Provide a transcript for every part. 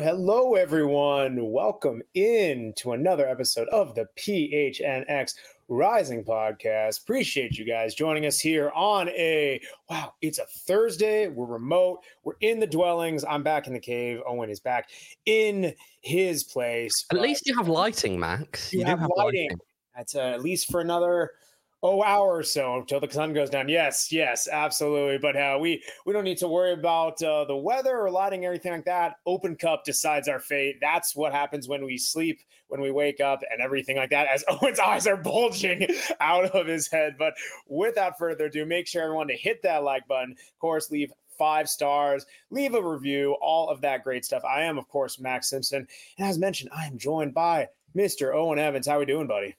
Hello, everyone. Welcome in to another episode of the PHNX Rising Podcast. Appreciate you guys joining us here on it's a Thursday. We're remote. We're in the dwellings. I'm back in the cave. Owen is back in his place. At least you have lighting, Max. You do have lighting. That's at least for another hour or so until the sun goes down. Yes, absolutely. But we don't need to worry about the weather or lighting or anything like that. Open Cup decides our fate. That's what happens when we sleep, when we wake up, and everything like that, as Owen's eyes are bulging out of his head. But without further ado, make sure everyone to hit that like button. Of course, leave 5 stars, leave a review, all of that great stuff. I am, of course, Max Simpson. And as mentioned, I am joined by Mr. Owen Evans. How are we doing, buddy?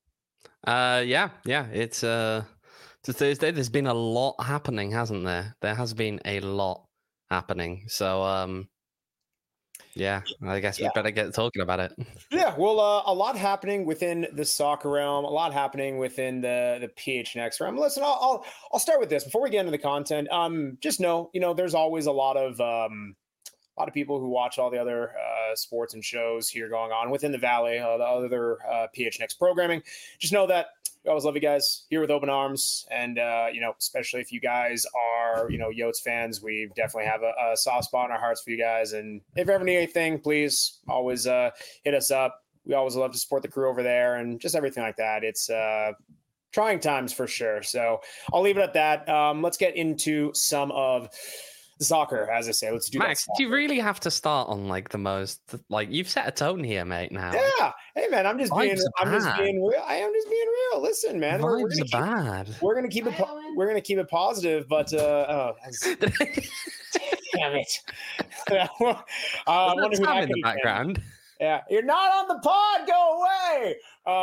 It's a Thursday. There's been a lot happening, hasn't there? There has been a lot happening. So, I guess we better get talking about it. Yeah, well, a lot happening within the soccer realm, a lot happening within the PHNX realm. Listen, I'll start with this before we get into the content. Just know, there's always a lot of people who watch all the other sports and shows here going on within the Valley, the other PHNX programming. Just know that we always love you guys here with open arms. And, especially if you guys are, Yotes fans, we definitely have a soft spot in our hearts for you guys. And if you ever need anything, please always hit us up. We always love to support the crew over there and just everything like that. It's trying times for sure. So I'll leave it at that. Let's get into some of soccer, as I say. Let's do Max, do you really have to start on the most you've set a tone here, mate? Now, yeah. Hey, man, I'm just being real. I am just being real. Listen, man, we're gonna keep it positive, but damn it! I wonder who in the background. Yeah, you're not on the pod. Go away.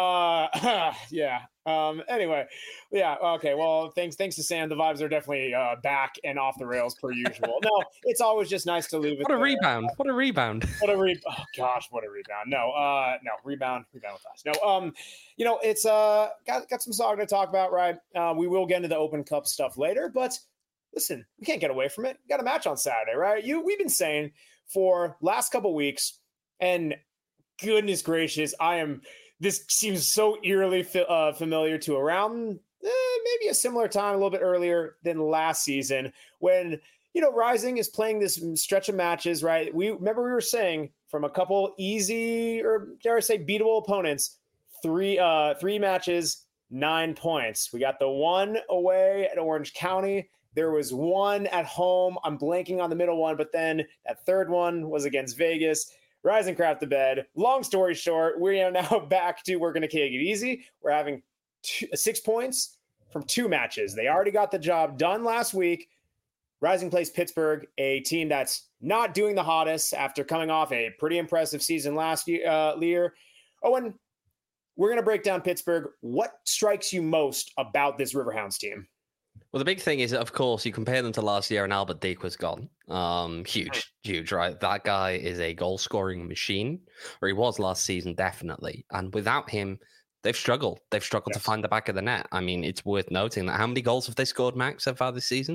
Anyway, yeah. Okay. Well, thanks to Sam. The vibes are definitely back and off the rails per usual. No, it's always just nice to leave it. What a rebound! What a rebound! Oh gosh, what a rebound! No, rebound with us. No, it's got some soccer to talk about, right? We will get into the Open Cup stuff later, but listen, we can't get away from it. We got a match on Saturday, right? We've been saying for last couple weeks. And goodness gracious, this seems so eerily familiar to around maybe a similar time, a little bit earlier than last season when, Rising is playing this stretch of matches, right? We were saying from a couple easy, or dare I say beatable opponents, three matches, 9 points. We got the one away at Orange County. There was one at home. I'm blanking on the middle one, but then that third one was against Vegas. Rising crapped the bed. Long story short, we are now back to we're going to take it easy. We're having 6 points from 2 matches. They already got the job done last week. Rising plays Pittsburgh, a team that's not doing the hottest after coming off a pretty impressive season last year. Owen, we're going to break down Pittsburgh. What strikes you most about this Riverhounds team? Well, the big thing is, of course, you compare them to last year and Albert Deke was gone. Huge, right? That guy is a goal-scoring machine, or he was last season, definitely. And without him, they've struggled. They've struggled to find the back of the net. I mean, it's worth noting that how many goals have they scored, Max, so far this season?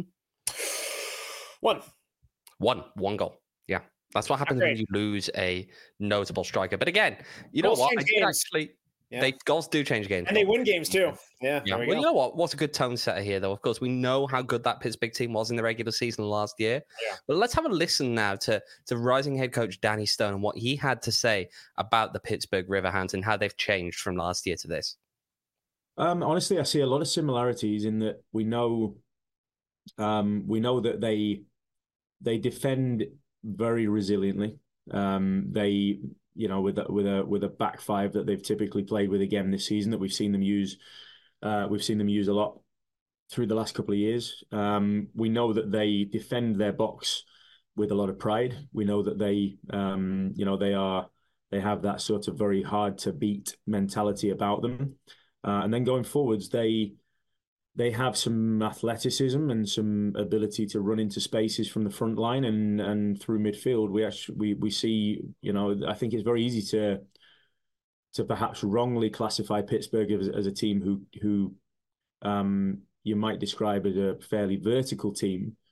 One goal. Yeah. That's what happens when you lose a notable striker. But again, you know what? I did actually... Yeah. Goals do change games. And they win games too. Yeah. Well, you know what? What's a good tone setter here, though? Of course, we know how good that Pittsburgh team was in the regular season last year. Yeah. But let's have a listen now to Rising head coach Danny Stone and what he had to say about the Pittsburgh Riverhounds and how they've changed from last year to this. Honestly, I see a lot of similarities in that we know that they defend very resiliently. They with a back five that they've typically played with again this season that we've seen them use a lot through the last couple of years. We know that they defend their box with a lot of pride. We know that they have that sort of very hard to beat mentality about them. And then going forwards, they have some athleticism and some ability to run into spaces from the front line and through midfield. We see, I think it's very easy to perhaps wrongly classify Pittsburgh as a team who you might describe as a fairly vertical team.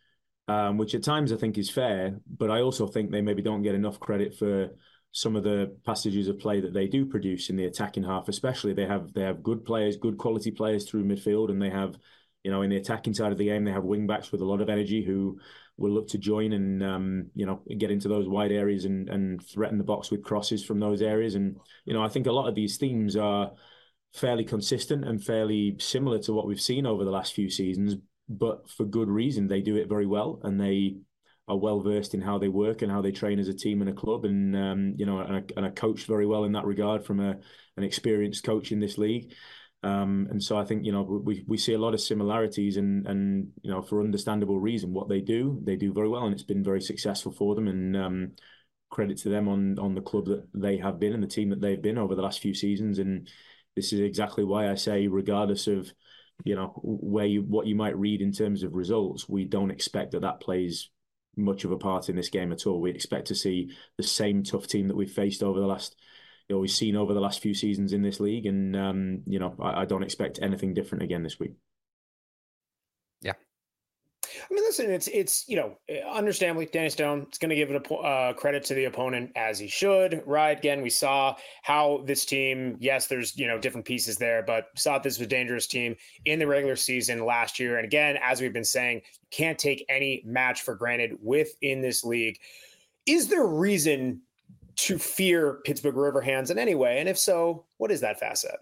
which at times I think is fair, but I also think they maybe don't get enough credit for some of the passages of play that they do produce in the attacking half. Especially they have good players, good quality players through midfield, and they have, in the attacking side of the game, they have wing backs with a lot of energy who will look to join and get into those wide areas and threaten the box with crosses from those areas. And I think a lot of these themes are fairly consistent and fairly similar to what we've seen over the last few seasons, but for good reason. They do it very well, and they are well versed in how they work and how they train as a team and a club, and and are coached very well in that regard from an experienced coach in this league. And so I think we see a lot of similarities, and for understandable reason, what they do very well, and it's been very successful for them. And credit to them on the club that they have been and the team that they've been over the last few seasons. And this is exactly why I say, regardless of what you might read in terms of results, we don't expect that plays much of a part in this game at all. We expect to see the same tough team that we've faced over the last, we've seen over the last few seasons in this league, and I don't expect anything different again this week. Yeah. I mean, listen, it's understandably, Danny Stone is going to give it a credit to the opponent, as he should, right? Again, we saw how this team, yes, there's, different pieces there, but saw this was a dangerous team in the regular season last year. And again, as we've been saying, you can't take any match for granted within this league. Is there reason to fear Pittsburgh Riverhands in any way? And if so, what is that facet?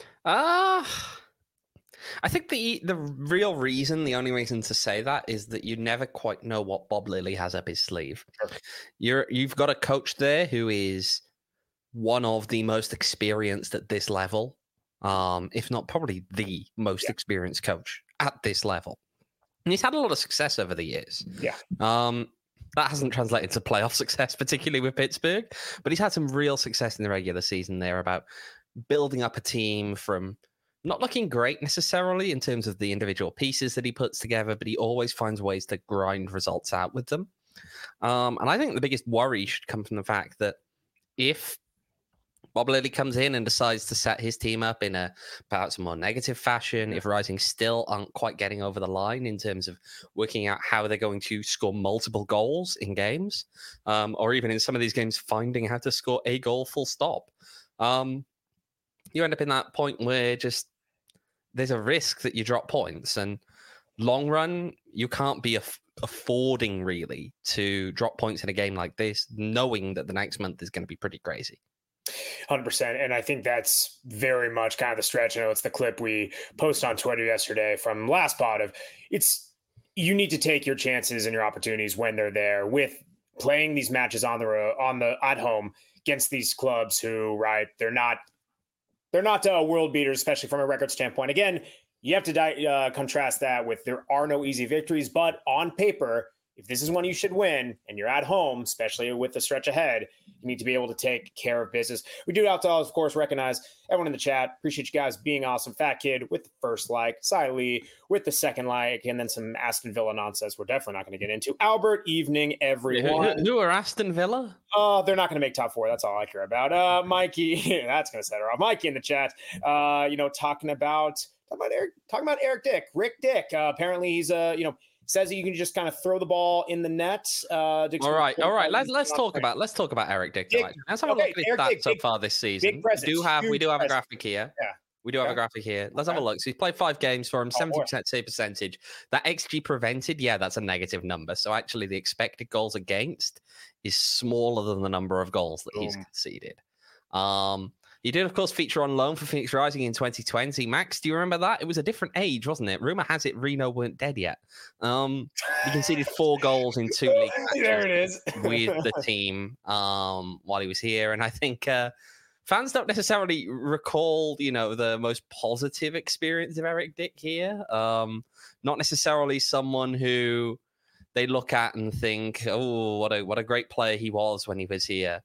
I think the real reason, the only reason to say that, is that you never quite know what Bob Lilly has up his sleeve. Sure. You've got a coach there who is one of the most experienced at this level, if not probably the most experienced coach at this level. And he's had a lot of success over the years. Yeah. That hasn't translated to playoff success, particularly with Pittsburgh, but he's had some real success in the regular season there about building up a team from not looking great necessarily in terms of the individual pieces that he puts together, but he always finds ways to grind results out with them. And I think the biggest worry should come from the fact that if Bob Lilly comes in and decides to set his team up in perhaps a more negative fashion, if Rising still aren't quite getting over the line in terms of working out how they're going to score multiple goals in games, or even in some of these games, finding how to score a goal full stop, you end up in that point where just there's a risk that you drop points. And long run, you can't be affording really to drop points in a game like this, knowing that the next month is going to be pretty crazy. 100%. And I think that's very much kind of the stretch. I know it's the clip we posted on Twitter yesterday from last pod of you need to take your chances and your opportunities when they're there, with playing these matches at home against these clubs who, right, they're not world beaters, especially from a record standpoint. Again, you have to contrast that with there are no easy victories, but on paper, if this is one you should win and you're at home, especially with the stretch ahead, you need to be able to take care of business. We do have to, of course, recognize everyone in the chat. Appreciate you guys being awesome. Fat Kid with the first like, Cy Lee with the second like, and then some Aston Villa nonsense we're definitely not going to get into. Albert, evening, everyone. Who are Aston Villa? They're not going to make top four. That's all I care about. Mikey, that's going to set her off. Mikey in the chat, talking about Eric Dick, Rick Dick. Apparently he's says that you can just kind of throw the ball in the net. All right. Let's talk about Eric Dick. Let's have a look at his stats so far this season. We do have a graphic here. Yeah. We do have a graphic here. Let's have a look. So he's played 5 games for him, 70% save percentage. That XG prevented, that's a negative number. So actually the expected goals against is smaller than the number of goals that he's conceded. He did, of course, feature on loan for Phoenix Rising in 2020. Max, do you remember that? It was a different age, wasn't it? Rumor has it Reno weren't dead yet. He conceded 4 goals in 2 league matches there it is. with the team while he was here. And I think fans don't necessarily recall, the most positive experience of Eric Dick here. Not necessarily someone who they look at and think, oh, what a great player he was when he was here.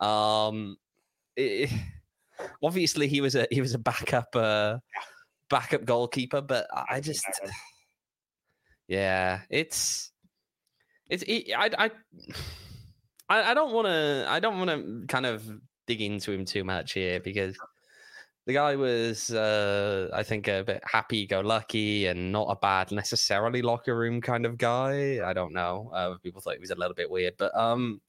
Obviously, he was a backup goalkeeper, but I just, I don't want to kind of dig into him too much here, because The guy was, I think, a bit happy-go-lucky and not a bad necessarily locker room kind of guy. I don't know. People thought he was a little bit weird, but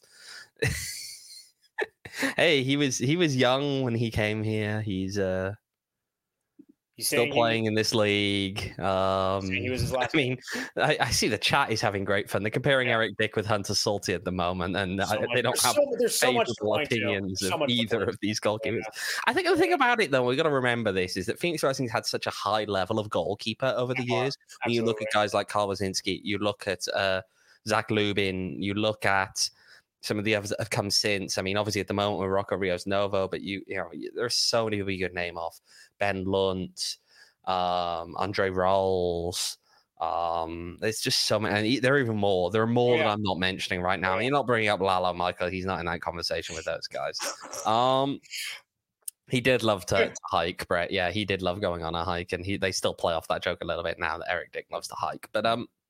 hey, he was young when he came here. He's still playing in this league. He was his last. I mean, I see the chat is having great fun. They're comparing Eric Dick with Hunter Salty at the moment, and they don't have favorable opinions of either of these goalkeepers. Yeah. I think the thing about it, though, we've got to remember this, is that Phoenix Rising's had such a high level of goalkeeper over the years. When you look at guys like Karl Wazinski, you look at Zach Lubin, you look at some of the others that have come since. I mean, obviously at the moment we're Rocco Rios Novo, but you know, there's so many people you could name off. Ben Lunt, Andre Rolls. There's just so many, and there are even more. There are more that I'm not mentioning right now. I mean, you're not bringing up Lalo Michael. He's not in that conversation with those guys. He did love to hike, Brett. Yeah, he did love going on a hike, and they still play off that joke a little bit now that Eric Dick loves to hike. But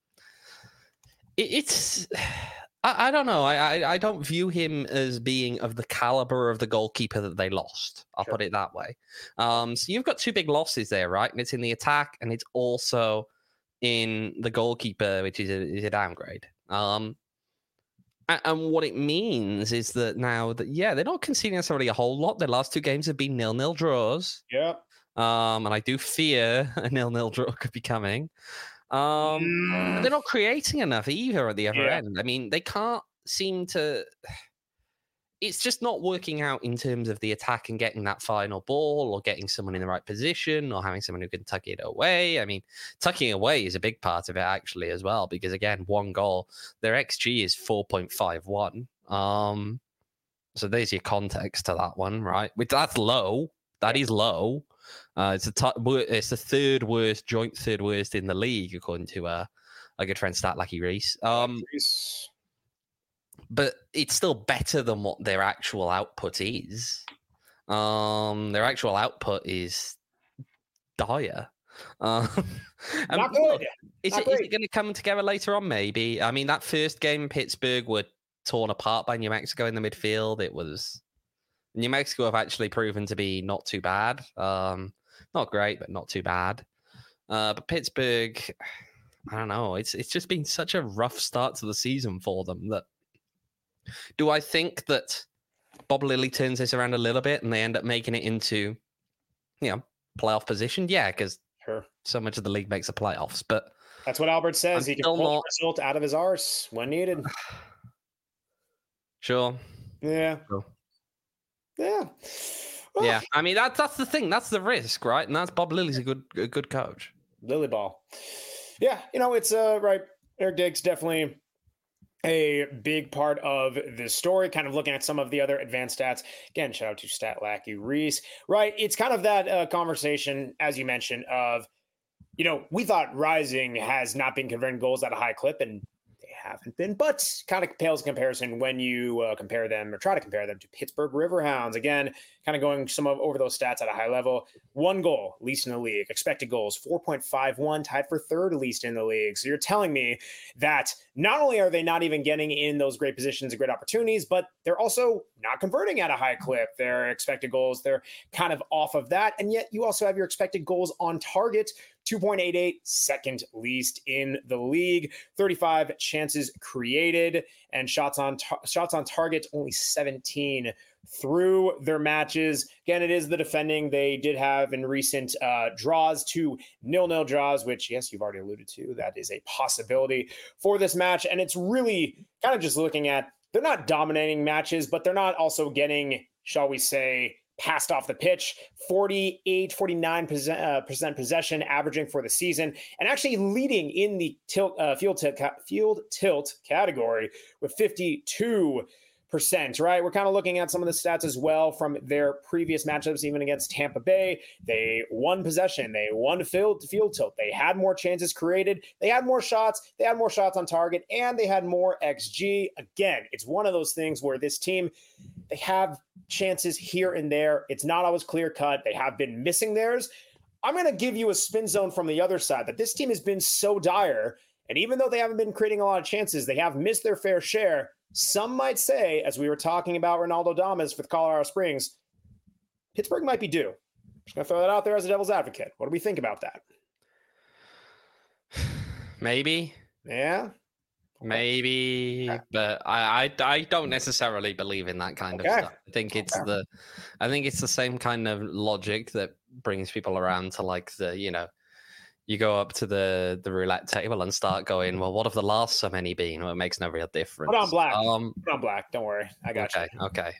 it's I don't know. I don't view him as being of the caliber of the goalkeeper that they lost. I'll put it that way. So you've got two big losses there, right? And it's in the attack, and it's also in the goalkeeper, which is a downgrade. And what it means is that now that, they're not conceding necessarily a whole lot. Their last two games have been 0-0 draws. Yeah. And I do fear a 0-0 draw could be coming. They're not creating enough either at the other end. I mean, they can't seem to. It's just not working out in terms of the attack and getting that final ball or getting someone in the right position or having someone who can tuck it away. I mean, tucking away is a big part of it actually as well, because again, one goal, their XG is 4.51. So there's your context to that one, right? That's low. That is low. It's the third worst, joint third worst in the league, according to a good friend, Stat Lucky Reese. But it's still better than what their actual output is. Their actual output is dire. Not good. Is it going to come together later on? Maybe. I mean, that first game in Pittsburgh were torn apart by New Mexico in the midfield. It was. New Mexico have actually proven to be not too bad. Not great, but not too bad. But Pittsburgh, I don't know. It's just been such a rough start to the season for them. That do I think Bob Lilly turns this around a little bit and they end up making it into, playoff position? Yeah, because so much of the league makes the playoffs. But that's what Albert says. He can pull the result out of his arse when needed. Sure. Yeah. Sure. Yeah. Well, yeah. I mean, that's the thing. That's the risk, right? And that's Bob Lilly's a good coach. Lily ball. Yeah. It's right. Eric Dick's definitely a big part of this story. Kind of looking at some of the other advanced stats. Again, shout out to Stat Lackey Reese. Right. It's kind of that conversation, as you mentioned, of, we thought Rising has not been converting goals at a high clip, and haven't been, but kind of pales in comparison when you compare them or try to compare them to Pittsburgh Riverhounds. Again, kind of going over those stats at a high level. 1 goal, least in the league. Expected goals, 4.51, tied for third least in the league. So you're telling me that not only are they not even getting in those great positions and great opportunities, but they're also not converting at a high clip. Their expected goals, they're kind of off of that. And yet you also have your expected goals on target, 2.88, second least in the league. 35 chances created, and shots on target, only 17 through their matches. Again, it is the defending. They did have in recent draws 2 0-0 draws, which, yes, you've already alluded to. That is a possibility for this match. And it's really kind of just looking at, they're not dominating matches, but they're not also getting, shall we say, passed off the pitch. 49% possession averaging for the season, and actually leading in the field tilt category with 52%, right? We're kind of looking at some of the stats as well from their previous matchups, even against Tampa Bay. They won possession. They won field tilt. They had more chances created. They had more shots. They had more shots on target, and they had more XG. Again, it's one of those things where this team, they have chances here and there. It's not always clear cut. They have been missing theirs. I'm going to give you a spin zone from the other side that this team has been so dire. And even though they haven't been creating a lot of chances, they have missed their fair share. Some might say, as we were talking about Ronaldo Damas with Colorado Springs, Pittsburgh might be due. Just gonna throw that out there as a devil's advocate. What do we think about that? Maybe. Yeah. Maybe, Okay. but I don't necessarily believe in that kind of stuff. I think it's the same kind of logic that brings people around to like you go up to the roulette table and start going, well, what have the last so many been? Well, it makes no real difference. Put on black. Put on black. Don't worry, I got you. Okay.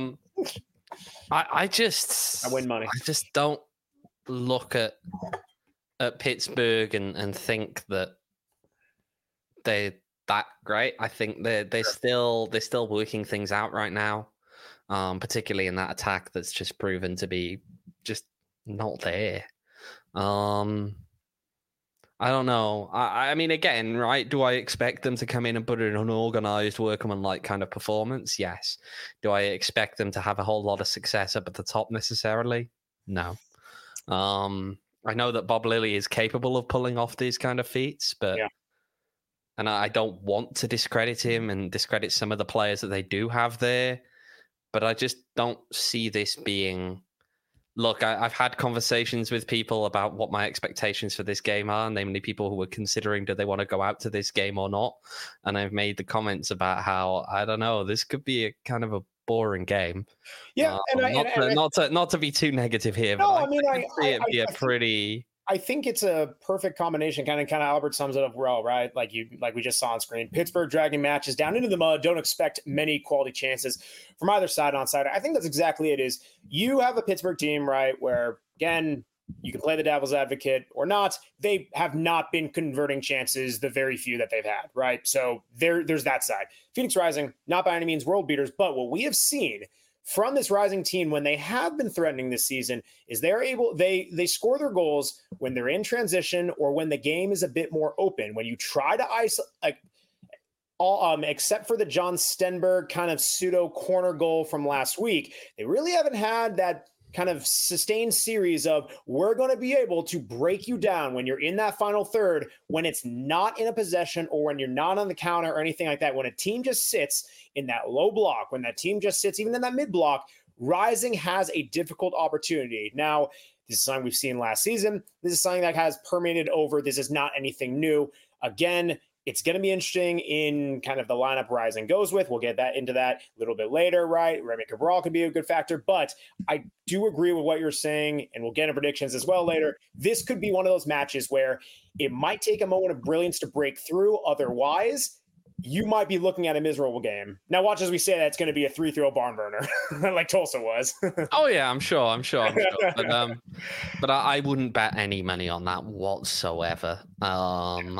I win money. I just don't look at Pittsburgh and think that they're that great. I think they're still working things out right now, particularly in that attack that's just proven to be just not there. I don't know. I mean, again, right? Do I expect them to come in and put in an organized, workmanlike kind of performance? Yes. Do I expect them to have a whole lot of success up at the top necessarily? No. I know that Bob Lilly is capable of pulling off these kind of feats, but and I don't want to discredit him and discredit some of the players that they do have there, but I just don't see this being. Look, I've had conversations with people about what my expectations for this game are, namely people who were considering do they want to go out to this game or not. And I've made the comments about how, I don't know, this could be a kind of a boring game. Yeah, not to be too negative here, no, but I mean, I see it be a pretty. I think it's a perfect combination. Kind of Albert sums it up well, right? Like we just saw on screen. Pittsburgh dragging matches down into the mud. Don't expect many quality chances from either side on side. I think that's exactly it. Is you have a Pittsburgh team, right? Where again, you can play the devil's advocate or not. They have not been converting chances, the very few that they've had, right? So there's that side. Phoenix Rising, not by any means world beaters, but what we have seen from this Rising team when they have been threatening this season is they score their goals when they're in transition or when the game is a bit more open. When you try to isolate, except for the John Stenberg kind of pseudo corner goal from last week, they really haven't had that kind of sustained series of we're going to be able to break you down when you're in that final third, when it's not in a possession or when you're not on the counter or anything like that. When a team just sits in that low block, when that team just sits even in that mid block, Rising has a difficult opportunity. Now, this is something we've seen last season. This is something that has permeated over. This is not anything new. Again, it's going to be interesting in kind of the lineup Rising goes with. We'll get into that a little bit later, right? Remy Cabral could be a good factor, but I do agree with what you're saying, and we'll get into predictions as well later. This could be one of those matches where it might take a moment of brilliance to break through. Otherwise, you might be looking at a miserable game. Now, watch as we say that's going to be a 3-0 barn burner, like Tulsa was. Oh yeah, I'm sure. But I wouldn't bet any money on that whatsoever. I'm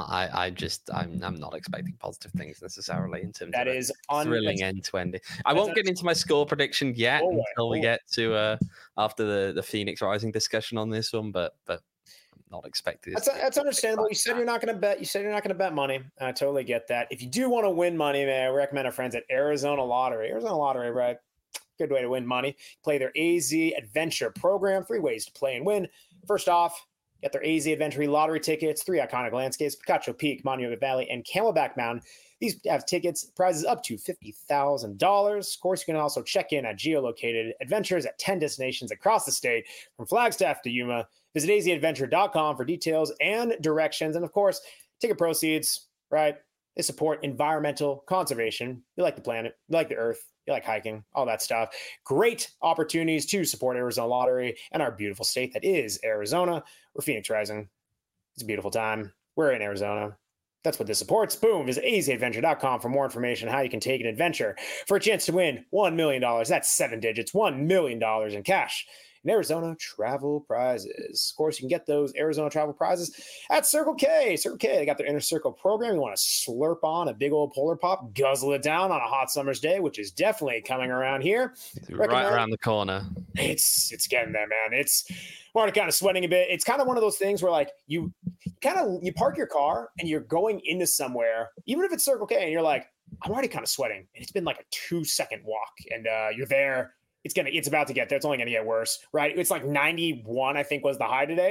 not expecting positive things necessarily in terms of thrilling end to end. I won't get into my score prediction yet until we get to after the Phoenix Rising discussion on this one, but. Not expected. That's understandable. You said you're not going to bet. You said you're not going to bet money. I totally get that. If you do want to win money, man, I recommend our friends at Arizona Lottery. Arizona Lottery, right? Good way to win money. Play their AZ Adventure program. 3 ways to play and win. First off, get their AZ Adventure Lottery tickets. 3 iconic landscapes: Picacho Peak, Monument Valley, and Camelback Mountain. These have tickets, prizes up to $50,000. Of course, you can also check in at geolocated adventures at 10 destinations across the state, from Flagstaff to Yuma. Visit azadventure.com for details and directions. And of course, ticket proceeds, right? They support environmental conservation. You like the planet, you like the earth, you like hiking, all that stuff. Great opportunities to support Arizona Lottery and our beautiful state that is Arizona. We're Phoenix Rising. It's a beautiful time. We're in Arizona. That's what this supports. Boom. Visit azadventure.com for more information on how you can take an adventure for a chance to win $1 million. That's 7 digits, $1 million in cash in Arizona travel prizes. Of course, you can get those Arizona travel prizes at Circle K. Circle K, they got their Inner Circle program. You want to slurp on a big old Polar Pop, guzzle it down on a hot summer's day, which is definitely coming around here. Right around the corner. It's getting there, man. It's already kind of sweating a bit. It's kind of one of those things where like you park your car and you're going into somewhere, even if it's Circle K, and you're like, I'm already kind of sweating. And it's been like a 2-second walk, and you're there. It's about to get there. It's only going to get worse, right? It's like 91, I think, was the high today.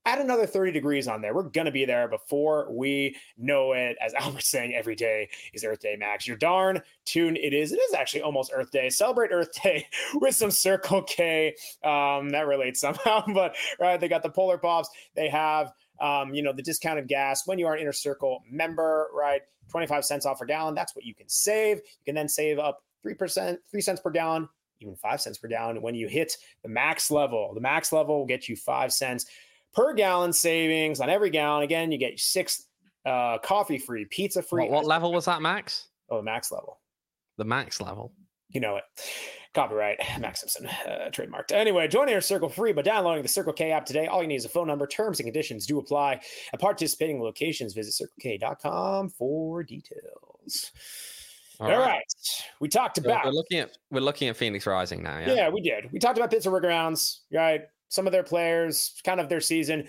add another 30 degrees on there. We're going to be there before we know it. As Albert's saying, every day is Earth Day, Max. You're darn tuned. It is actually almost Earth Day. Celebrate Earth Day with some Circle K. That relates somehow, but right, they got the Polar Pops. They have, the discounted gas when you are an Inner Circle member, right? 25 cents off per gallon. That's what you can save. You can then save up 3 cents per gallon, even 5 cents per gallon when you hit the max level. The max level will get you 5 cents per gallon savings on every gallon. Again, you get 6 coffee free, pizza free. What level was that, Max? Oh, the max level. The max level. You know it. Copyright, Max Simpson, trademarked. Anyway, join Inner Circle free by downloading the Circle K app today. All you need is a phone number. Terms and conditions do apply. At participating locations, visit circlek.com for details. All right. We talked about. We're looking at Phoenix Rising now. Yeah, we did. We talked about Pittsburgh Browns, right? Some of their players, kind of their season.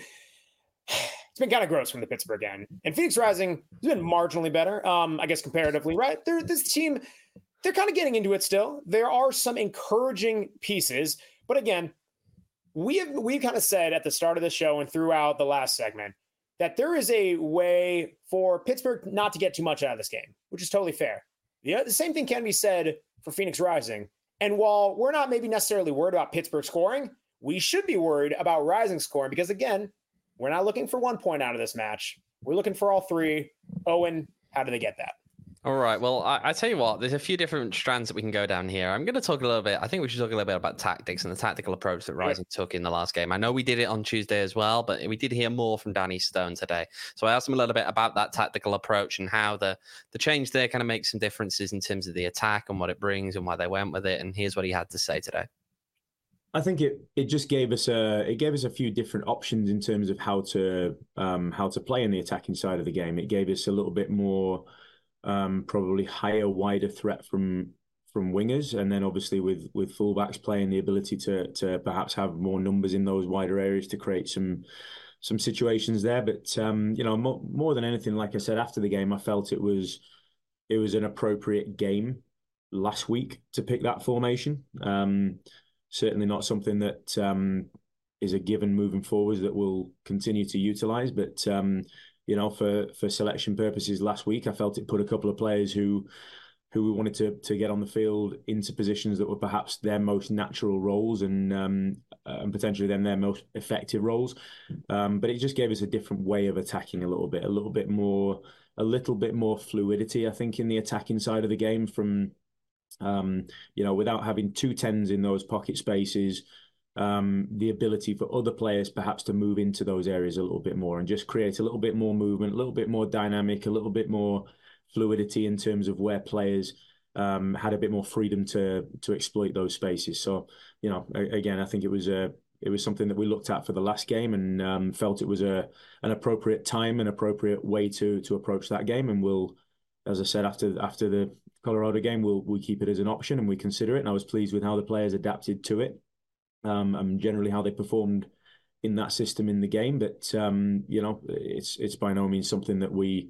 It's been kind of gross from the Pittsburgh end. And Phoenix Rising has been marginally better, I guess, comparatively, right? This team, they're kind of getting into it still. There are some encouraging pieces. But again, we've kind of said at the start of the show and throughout the last segment that there is a way for Pittsburgh not to get too much out of this game, which is totally fair. The same thing can be said for Phoenix Rising. And while we're not maybe necessarily worried about Pittsburgh scoring, we should be worried about Rising scoring because, again, we're not looking for 1 point out of this match. We're looking for all 3. Owen, how do they get that? All right. Well, I tell you what, there's a few different strands that we can go down here. I'm going to talk a little bit. I think we should talk a little bit about tactics and the tactical approach that Rising took in the last game. I know we did it on Tuesday as well, but we did hear more from Danny Stone today. So I asked him a little bit about that tactical approach and how the change there kind of makes some differences in terms of the attack and what it brings and why they went with it. And here's what he had to say today. I think it just gave us a few different options in terms of how to play in the attacking side of the game. It gave us a little bit more probably higher, wider threat from wingers, and then obviously with fullbacks playing the ability to perhaps have more numbers in those wider areas to create some situations there. But more than anything, like I said after the game, I felt it was an appropriate game last week to pick that formation. Certainly not something that is a given moving forwards that we'll continue to utilize. But, for selection purposes last week, I felt it put a couple of players who we wanted to get on the field into positions that were perhaps their most natural roles and potentially then their most effective roles. But it just gave us a different way of attacking a little bit more fluidity, I think, in the attacking side of the game from without having 2 10s in those pocket spaces, the ability for other players perhaps to move into those areas a little bit more and just create a little bit more movement, a little bit more dynamic, a little bit more fluidity in terms of where players had a bit more freedom to exploit those spaces. So, again, I think it was something that we looked at for the last game and felt it was an appropriate time, an appropriate way to approach that game. And we'll, as I said, after the Colorado game, we'll keep it as an option and we consider it. And I was pleased with how the players adapted to it and generally how they performed in that system in the game. But it's by no means something that we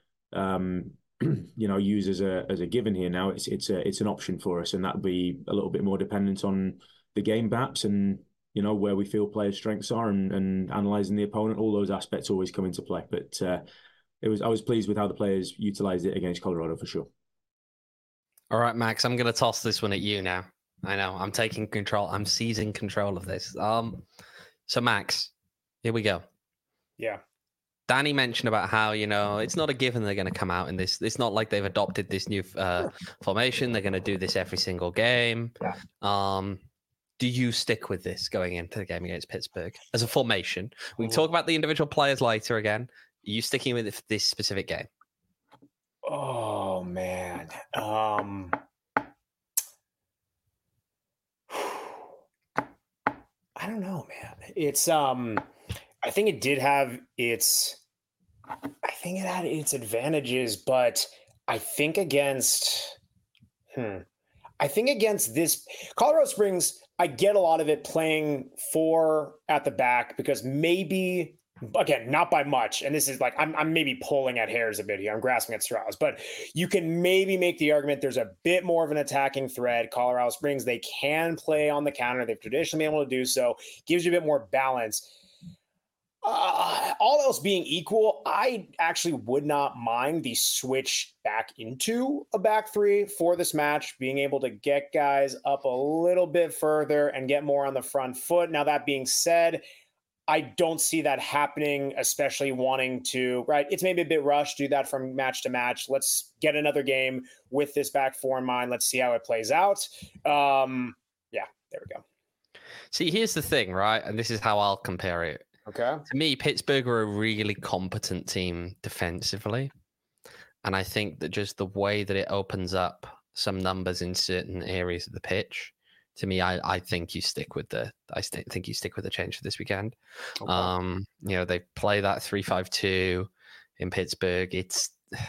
use as a given here. Now it's an option for us, and that'd be a little bit more dependent on the game perhaps and where we feel players' strengths are and analysing the opponent. All those aspects always come into play. But I was pleased with how the players utilised it against Colorado for sure. All right, Max, I'm going to toss this one at you now. I know, I'm taking control. I'm seizing control of this. So, Max, here we go. Yeah. Danny mentioned about how, it's not a given they're going to come out in this. It's not like they've adopted this new formation. They're going to do this every single game. Yeah. Do you stick with this going into the game against Pittsburgh as a formation? We can talk about the individual players later again. Are you sticking with this specific game? Oh, man. I don't know, man. It's I think it did have its advantages, but I think against this Colorado Springs, I get a lot of it playing 4 at the back because maybe, again, not by much. And this is like, I'm maybe pulling at hairs a bit here. I'm grasping at straws, but you can maybe make the argument there's a bit more of an attacking thread. Colorado Springs, they can play on the counter. They've traditionally been able to do so. Gives you a bit more balance. All else being equal, I actually would not mind the switch back into a back three for this match, being able to get guys up a little bit further and get more on the front foot. Now, that being said, I don't see that happening, especially wanting to, right? It's maybe a bit rushed, do that from match to match. Let's get another game with this back four in mind. Let's see how it plays out. Yeah, there we go. See, here's the thing, right? And this is how I'll compare it. Okay. To me, Pittsburgh are a really competent team defensively. And I think that just the way that it opens up some numbers in certain areas of the pitch, to me, I think you stick with the change for this weekend. Okay. They play that 3-5-2 in Pittsburgh. It's,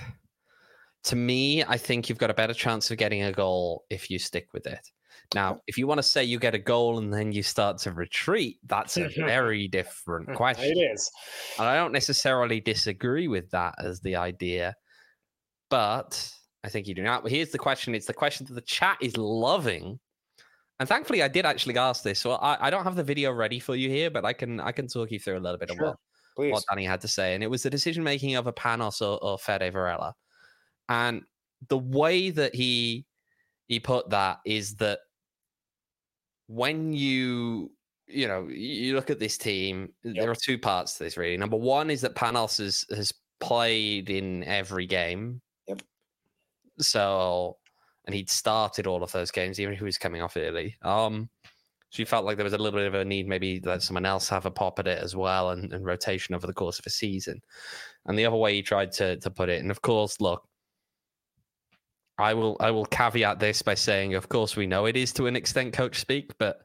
to me, I think you've got a better chance of getting a goal if you stick with it. Now, if you want to say you get a goal and then you start to retreat, that's a very different question. It is. And I don't necessarily disagree with that as the idea, but I think you do not. But here's the question. It's the question that the chat is loving. And thankfully, I did actually ask this. So I don't have the video ready for you here, but I can talk you through a little bit of what Danny had to say. And it was the decision-making of a Panos or Fede Varela. And the way that he put that is that when you look at this team, there are two parts to this, really. Number one is that Panos has played in every game. Yep. So, and he'd started all of those games, even if he was coming off early. So you felt like there was a little bit of a need, maybe let someone else have a pop at it as well, and rotation over the course of a season. And the other way he tried to put it, and of course, look, I will caveat this by saying, of course, we know it is to an extent coach speak, but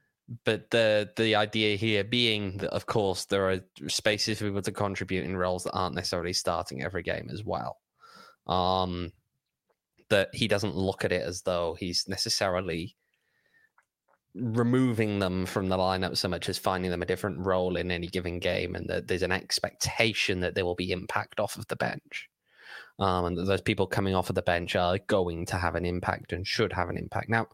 the idea here being that, of course, there are spaces for people to contribute in roles that aren't necessarily starting every game as well. That he doesn't look at it as though he's necessarily removing them from the lineup so much as finding them a different role in any given game, and that there's an expectation that there will be impact off of the bench. And those people coming off of the bench are going to have an impact and should have an impact. Now,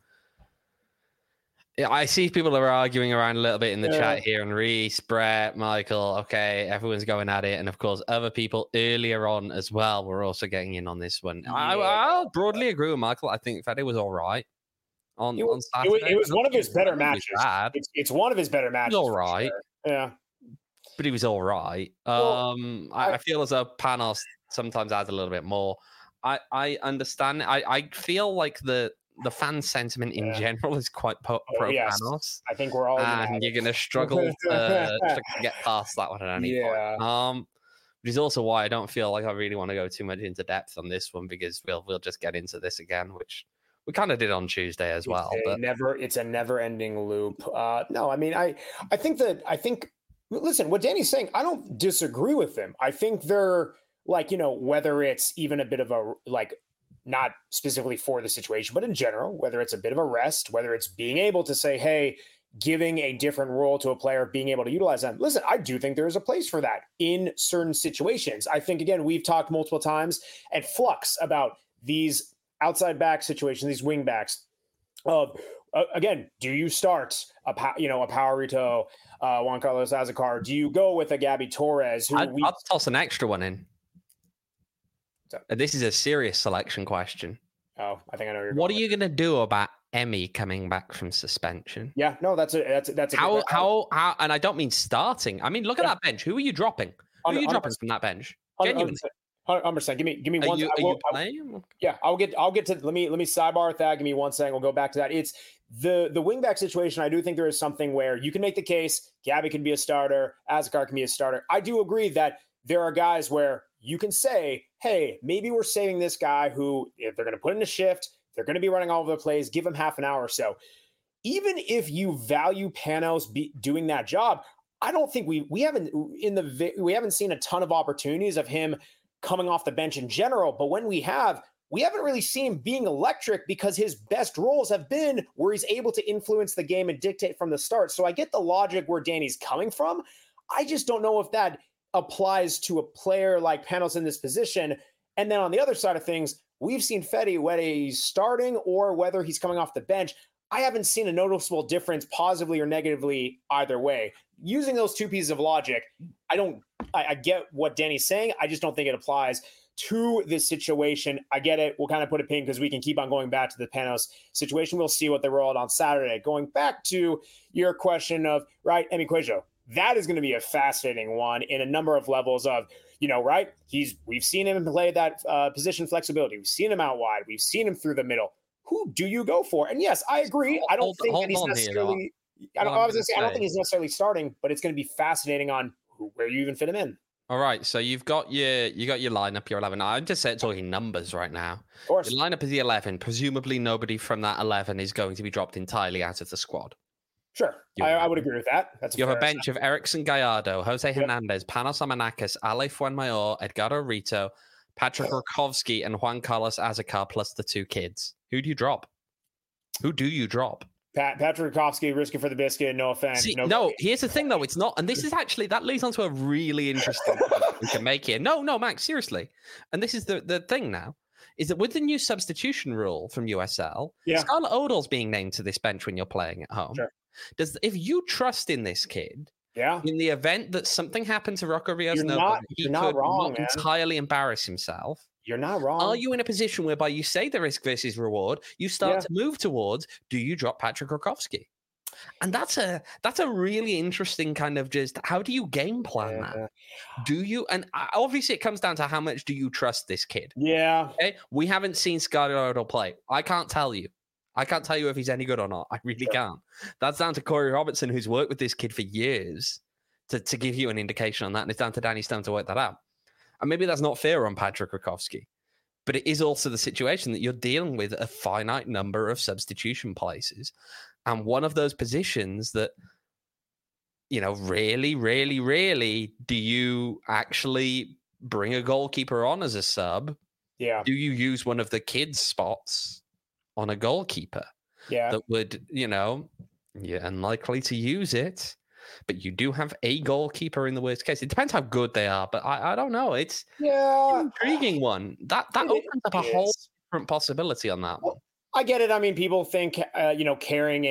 I see people are arguing around a little bit in the chat here, and Reese, Brett, Michael, okay, everyone's going at it. And of course, other people earlier on as well were also getting in on this one. Yeah. I'll broadly agree with Michael. I think Fede was all right on Saturday. It was one of his better matches. It's one of his better matches. He was all right. Sure. Yeah. But he was all right. I feel as though Panos sometimes adds a little bit more. I understand. I feel like the fan sentiment in general is quite pro Panos. I think we're all and you're going to struggle to get past that one at any point. Which is also why I don't feel like I really want to go too much into depth on this one, because we'll just get into this again, which we kind of did on Tuesday as well. It's a never-ending loop. No, I mean, I think. Listen, what Danny's saying, I don't disagree with him. I think they're whether it's even a bit of a, not specifically for the situation, but in general, whether it's a bit of a rest, whether it's being able to say, hey, giving a different role to a player, being able to utilize them. Listen, I do think there is a place for that in certain situations. I think, again, we've talked multiple times at Flux about these outside back situations, these wing backs. Again, do you start a Powerito, Juan Carlos Azacar? Do you go with a Gabby Torres? I'll toss an extra one in. This is a serious selection question. Oh, I think I know. What are you going to do about Emmy coming back from suspension? Yeah, no, that's how. And I don't mean starting. I mean, look at that bench. Who are you dropping? Who are you dropping from that bench? Genuinely. 100%. Give me one. Are you playing? Yeah, I'll get to. Let me sidebar that. Give me 1 second. We'll go back to that. It's the wingback situation. I do think there is something where you can make the case Gabby can be a starter, Azacar can be a starter. I do agree that there are guys where you can say, hey, maybe we're saving this guy who, if they're going to put in a shift, they're going to be running all over the place, give him half an hour or so. Even if you value Panos doing that job, I don't think we haven't seen a ton of opportunities of him coming off the bench in general. But when we haven't really seen him being electric, because his best roles have been where he's able to influence the game and dictate from the start. So I get the logic where Danny's coming from. I just don't know if that applies to a player like Panos in this position. And then on the other side of things, we've seen Fede, whether he's starting or whether he's coming off the bench. I haven't seen a noticeable difference positively or negatively either way. Using those two pieces of logic, I get what Danny's saying. I just don't think it applies to this situation. I get it. We'll kind of put a pin because we can keep on going back to the Panos situation. We'll see what they roll out on Saturday. Going back to your question of, right, Emi Cuejo, that is going to be a fascinating one in a number of levels of, right? We've seen him play that position flexibility. We've seen him out wide. We've seen him through the middle. Who do you go for? And yes, I agree. I don't think he's necessarily. I don't think he's necessarily starting, but it's going to be fascinating on where you even fit him in. All right, so you got your lineup, your 11. I'm just talking numbers right now. Of course, your lineup is the 11. Presumably, nobody from that 11 is going to be dropped entirely out of the squad. Sure, I would agree with that. You have a bench of Erickson Gallardo, Jose Hernandez, Panos Amanakis, Ale Fuenmayor, Edgardo Rito, Patrick Rakowski, and Juan Carlos Azacar, plus the 2 kids. Who do you drop? Patrick Rakowski, risking for the biscuit, no offense. No, here's the thing, though. It's not. And this is actually, that leads on to a really interesting point we can make here. No, Max, seriously. And this is the thing now, is that with the new substitution rule from USL, Scarlett Odell's being named to this bench when you're playing at home. Sure. If you trust in this kid, in the event that something happened to Rocco Rios-Nova, he could not entirely embarrass himself. You're not wrong. Are you in a position whereby you say the risk versus reward, you start to move towards, do you drop Patrick Rakowski? And that's a really interesting kind of just, how do you game plan that? Do you, and obviously it comes down to how much do you trust this kid? Yeah. Okay? We haven't seen Scarlett Odell play. I can't tell you if he's any good or not. I really can't. That's down to Corey Robertson, who's worked with this kid for years, to give you an indication on that. And it's down to Danny Stone to work that out. And maybe that's not fair on Patrick Rakowski, but it is also the situation that you're dealing with a finite number of substitution places. And one of those positions that, really, really, really, do you actually bring a goalkeeper on as a sub? Yeah. Do you use one of the kids' spots on a goalkeeper? Yeah. That would, you're unlikely to use it. But you do have a goalkeeper in the worst case. It depends how good they are, but I don't know. It's an intriguing one. That opens up a whole different possibility on that one. I get it. I mean, people think, carrying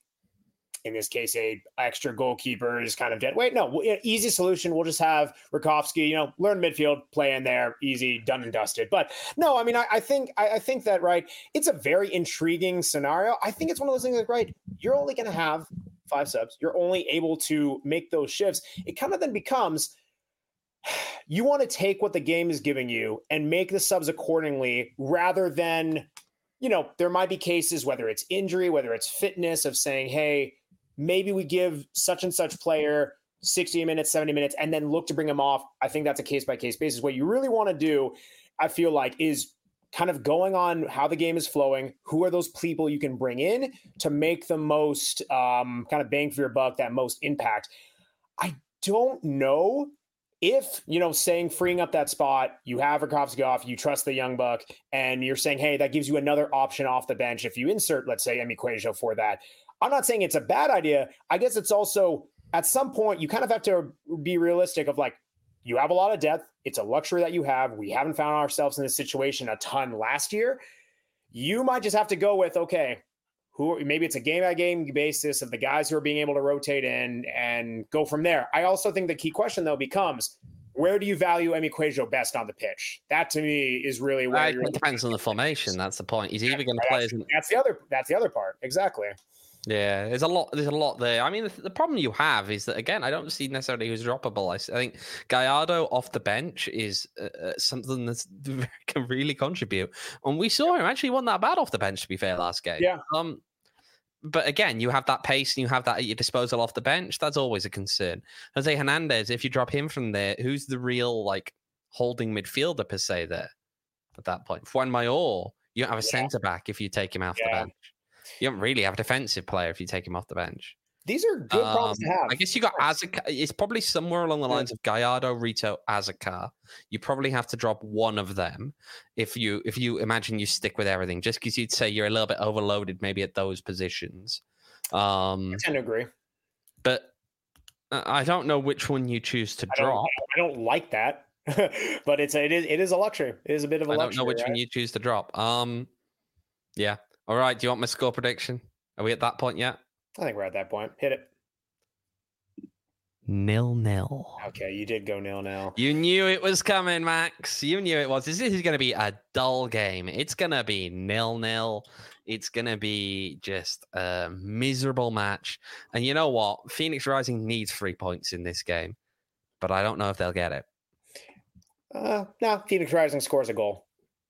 in this case, a extra goalkeeper is kind of dead weight. No, easy solution. We'll just have Rakowski, learn midfield, play in there, easy, done and dusted. But no, I mean, I think that, right, it's a very intriguing scenario. I think it's one of those things like, right, you're only going to have 5 subs. You're only able to make those shifts. It kind of then becomes, you want to take what the game is giving you and make the subs accordingly, rather than, there might be cases, whether it's injury, whether it's fitness, of saying, hey, maybe we give such and such player 60 minutes, 70 minutes, and then look to bring him off. I think that's a case-by-case basis. What you really want to do, I feel like, is kind of going on how the game is flowing. Who are those people you can bring in to make the most kind of bang for your buck, that most impact? I don't know if, saying freeing up that spot, you have Rakowski off, you trust the young buck, and you're saying, hey, that gives you another option off the bench if you insert, let's say, Emi Cuejo for that. I'm not saying it's a bad idea. I guess it's also, at some point, you kind of have to be realistic of, like, you have a lot of depth. It's a luxury that you have. We haven't found ourselves in this situation a ton last year. You might just have to go with, okay, maybe it's a game-by-game basis of the guys who are being able to rotate in and go from there. I also think the key question, though, becomes, where do you value Emi Cuejo best on the pitch? That, to me, is really where it depends on the formation. That's the point. He's either going to play as that's the other part. Exactly. Yeah, there's a lot there. I mean, the problem you have is that, again, I don't see necessarily who's droppable. I think Gallardo off the bench is something that can really contribute. And we saw him actually wasn't that bad off the bench, to be fair, last game. Yeah. But again, you have that pace and you have that at your disposal off the bench. That's always a concern. Jose Hernandez, if you drop him from there, who's the real, like, holding midfielder per se there at that point? Fuenmayor, you don't have a centre back if you take him off the bench. You don't really have a defensive player if you take him off the bench. These are good problems to have. I guess you got Azacar. It's probably somewhere along the lines of Gallardo, Rito, Azacar. You probably have to drop one of them if you imagine you stick with everything, just because you'd say you're a little bit overloaded maybe at those positions. I tend to agree. But I don't know which one you choose to drop. I don't like that, but it is a luxury. It is a bit of a luxury. I don't know which one you choose to drop. Yeah. All right. Do you want my score prediction? Are we at that point yet? I think we're at that point. Hit it. 0-0. Okay, you did go 0-0. You knew it was coming, Max. You knew it was. This is going to be a dull game. It's going to be 0-0. It's going to be just a miserable match. And you know what? Phoenix Rising needs 3 points in this game, but I don't know if they'll get it. No, Phoenix Rising scores a goal.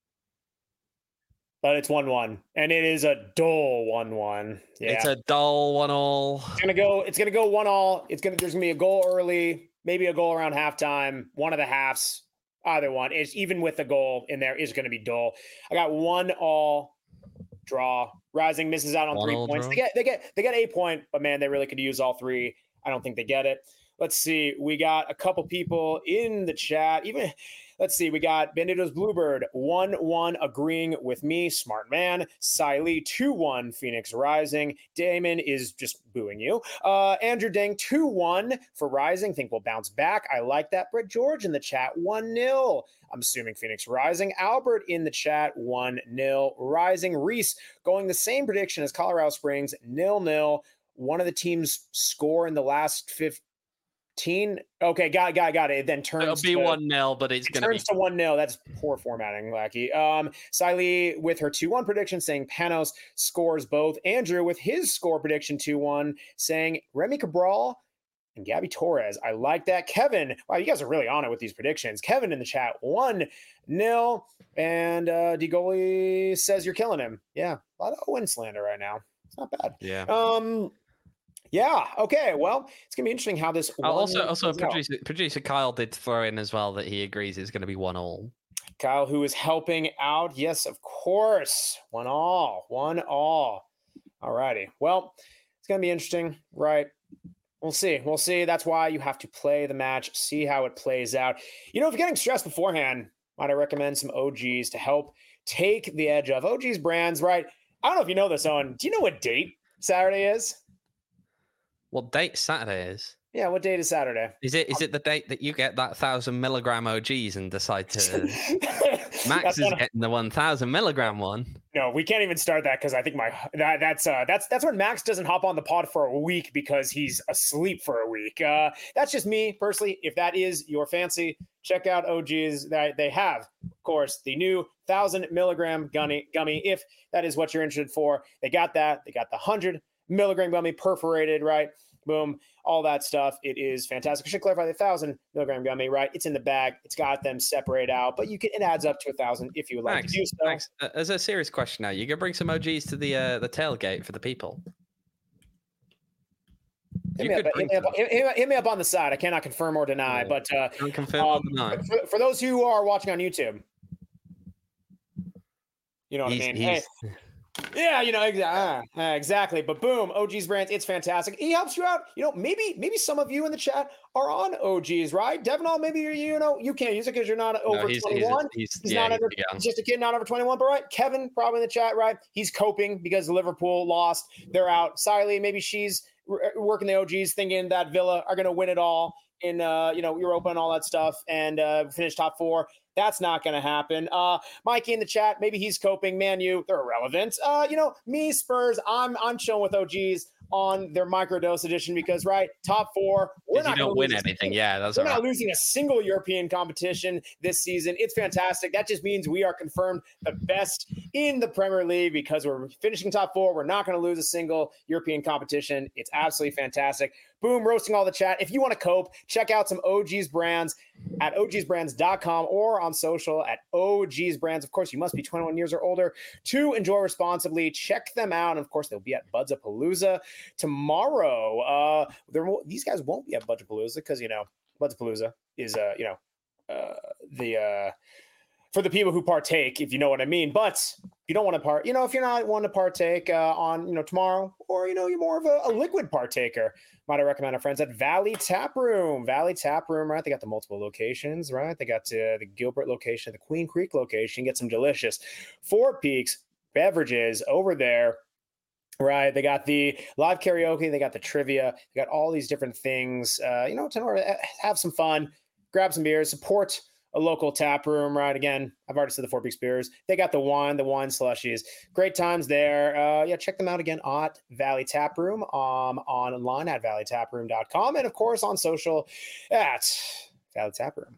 But it's 1-1, and it is a dull 1-1. Yeah. It's a dull 1-1. It's gonna go 1-1. There's gonna be a goal early, maybe a goal around halftime, one of the halves, either one. It's even with the goal in there is gonna be dull. I got 1-1 draw. Rising misses out on 3 points. Draw. They get a point, but man, they really could use all three. I don't think they get it. Let's see. We got a couple people in the chat. Let's see. We got Bandito's Bluebird 1-1 agreeing with me. Smart man. Siley 2-1 Phoenix Rising. Damon is just booing you. Andrew Dang 2-1 for Rising. Think we'll bounce back. I like that. Brett George in the chat 1-0. I'm assuming Phoenix Rising. Albert in the chat 1-0 Rising. Reese going the same prediction as Colorado Springs 0-0. One of the teams score in the last 15. Okay, got it. It then turns. It'll be 1-0, but it's going to be turns to 1-0. That's poor formatting, Lackey. Siley with her 2-1 prediction saying Panos scores both. Andrew with his score prediction 2-1 saying Remy Cabral and Gabby Torres. I like that. Kevin, wow, you guys are really on it with these predictions. Kevin in the chat 1-0, and DeGoli says you're killing him. Yeah, a lot of Owen slander right now. It's not bad. Yeah. Yeah. Okay. Well, it's gonna be interesting how this. Also, producer Kyle did throw in as well that he agrees it's going to be 1-1. Kyle, who is helping out? Yes, of course. 1-1. All righty. Well, it's gonna be interesting, right? We'll see. That's why you have to play the match, see how it plays out. If you're getting stressed beforehand, might I recommend some OGs to help take the edge off. OGs brands, right? I don't know if you know this, Owen. Do you know what date Saturday is? What date Saturday is? Yeah, what date is Saturday? Is it the date that you get that 1,000 milligram OGs and decide to? Max is getting the 1,000 milligram one. No, we can't even start that because I think that's when Max doesn't hop on the pod for a week because he's asleep for a week. That's just me personally. If that is your fancy, check out OGs. They have, of course, the new 1,000 milligram gummy. If that is what you're interested for, they got that. They got the 100 milligram gummy perforated, right? Boom, all that stuff. It is fantastic. I should clarify the 1,000 milligram gummy, right? It's in the bag. It's got them separate out, but it adds up to 1,000 if you would like to do so. Max, as a serious question now, you gonna bring some OGs to the tailgate for the people? Hit me up on the side. I cannot confirm or deny, but confirm or deny. For those who are watching on YouTube, you know what I mean. Hey. Yeah, exactly. But boom, OGs brands, it's fantastic. He helps you out. Maybe some of you in the chat are on OGs, right? Devonall, maybe you can't use it because you're not over 21. He's just a kid, not over 21. But right, Kevin probably in the chat, right? He's coping because Liverpool lost. They're out. Siley, maybe she's working the OGs, thinking that Villa are going to win it all in Europa and all that stuff and finish top 4. That's not going to happen. Mikey in the chat, maybe he's coping. Man, they're irrelevant. Me, Spurs, I'm chilling with OGs on their microdose edition because, right, top 4. We're not going to win anything. We're not losing a single European competition this season. It's fantastic. That just means we are confirmed the best in the Premier League because we're finishing top 4. We're not going to lose a single European competition. It's absolutely fantastic. Boom, roasting all the chat. If you want to cope, check out some OGs brands at ogsbrands.com or on social at OGs brands. Of course, you must be 21 years or older to enjoy responsibly. Check them out. And of course, they'll be at Budzapalooza tomorrow. These guys won't be at Budzapalooza because, Budzapalooza is, for the people who partake, if you know what I mean. But you don't want to if you're not wanting to partake on, tomorrow, or, you're more of a liquid partaker, might I recommend our friends at Valley Tap Room, right? They got the multiple locations, right? They got the Gilbert location, the Queen Creek location, get some delicious Four Peaks beverages over there. Right. They got the live karaoke. They got the trivia. They got all these different things, to have some fun, grab some beers, support a local tap room, right? Again, I've already said the Four Peaks Beers. They got the wine slushies. Great times there. Check them out again at Valley Tap Room, online at valleytaproom.com, and of course on social at Valley Tap Room.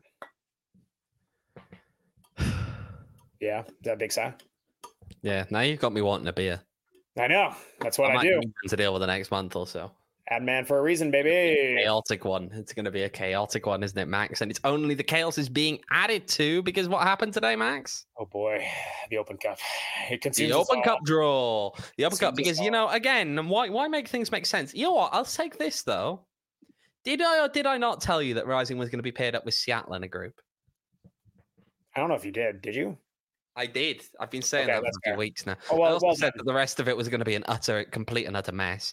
Yeah, is that a big sigh? Yeah, now you've got me wanting a beer. I know. That's what I do. To deal with the next month or so. Ad man for a reason, baby. Chaotic one. It's going to be a chaotic one, isn't it, Max? And it's only the chaos is being added to because what happened today, Max? Oh boy, the Open Cup. It consumes the Open Cup draw. The Open Consumes Cup because again, why make things make sense? You know what? I'll take this though. Did I or did I not tell you that Rising was going to be paired up with Seattle in a group? I don't know if you did. Did you? I did. I've been saying that for a few weeks now. Oh, I also said that the rest of it was going to be a complete and utter mess.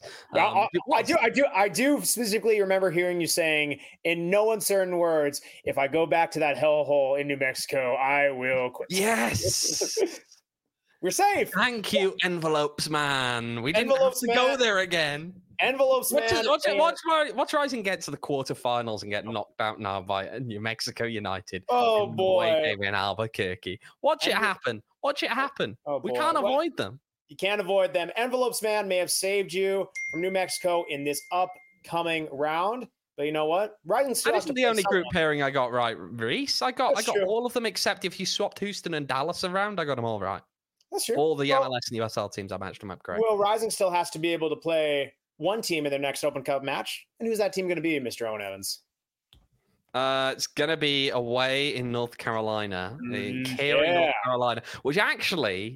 I do specifically remember hearing you saying, in no uncertain words, if I go back to that hellhole in New Mexico, I will quit. Yes. We're safe. Thank you, Envelopes Man. We didn't have to go there again. Envelopes Man. Watch Rising get to the quarterfinals and get knocked out now by New Mexico United. Oh boy, in Albuquerque. Watch it happen. Oh, we can't avoid them. You can't avoid them. Envelopes Man may have saved you from New Mexico in this upcoming round. But you know what? Rising still That isn't the only group pairing I got right, Reese. I got all of them except if you swapped Houston and Dallas around, I got them all right. That's true. All the MLS and USL teams, I matched them up correct. Well, Rising still has to be able to play one team in their next Open Cup match. And who's that team going to be, Mr. Owen Evans? It's going to be away in North Carolina. North Carolina, which actually,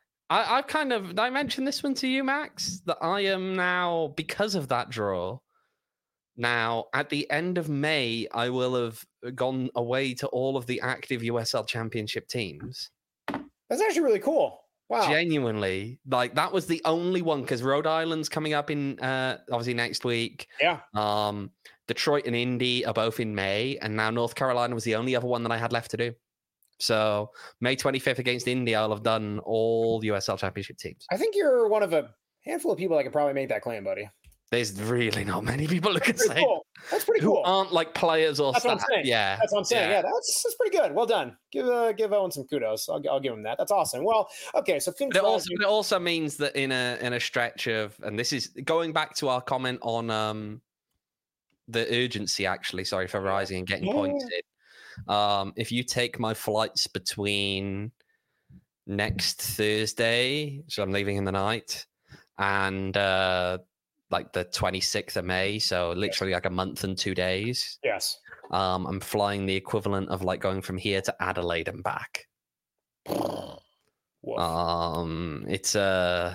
I mentioned this one to you, Max, that I am now, because of that draw, now at the end of May, I will have gone away to all of the active USL Championship teams. That's actually really cool. Wow. Genuinely, that was the only one because Rhode Island's coming up in obviously next week. Yeah. Detroit and Indy are both in May, and now North Carolina was the only other one that I had left to do. So May 25th against Indy, I'll have done all USL Championship teams. I think you're one of a handful of people that can probably make that claim, buddy. There's really not many people who can say cool. That's pretty cool. Who aren't like players or stuff. Yeah, that's what I'm saying. Yeah, that's pretty good. Well done. Give Owen some kudos. I'll give him that. That's awesome. Well, okay. So it also means that in a stretch of, and this is going back to our comment on the urgency. Actually, sorry for Rising and getting pointed. If you take my flights between next Thursday, so I'm leaving in the night, and like the 26th of May, so literally like a month and 2 days. Yes. I'm flying the equivalent of like going from here to Adelaide and back. It's a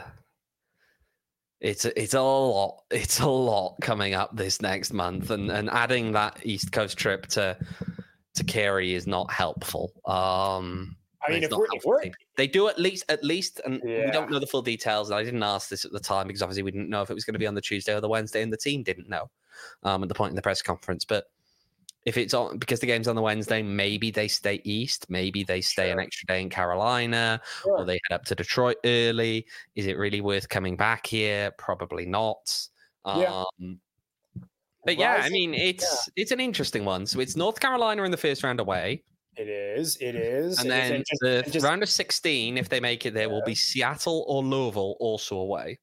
lot. It's a lot coming up this next month, and adding that East Coast trip to Carey is not helpful. I mean, if they do at least, and we don't know the full details. And I didn't ask this at the time because obviously we didn't know if it was going to be on the Tuesday or the Wednesday, and the team didn't know at the point in the press conference. But if it's on, because the game's on the Wednesday, maybe they stay east, maybe they stay an extra day in Carolina, or they head up to Detroit early. Is it really worth coming back here? Probably not. But yeah, I mean, it's an interesting one. So it's North Carolina in the first round away. It is. And then the round of 16, if they make it there, will be Seattle or Louisville also away.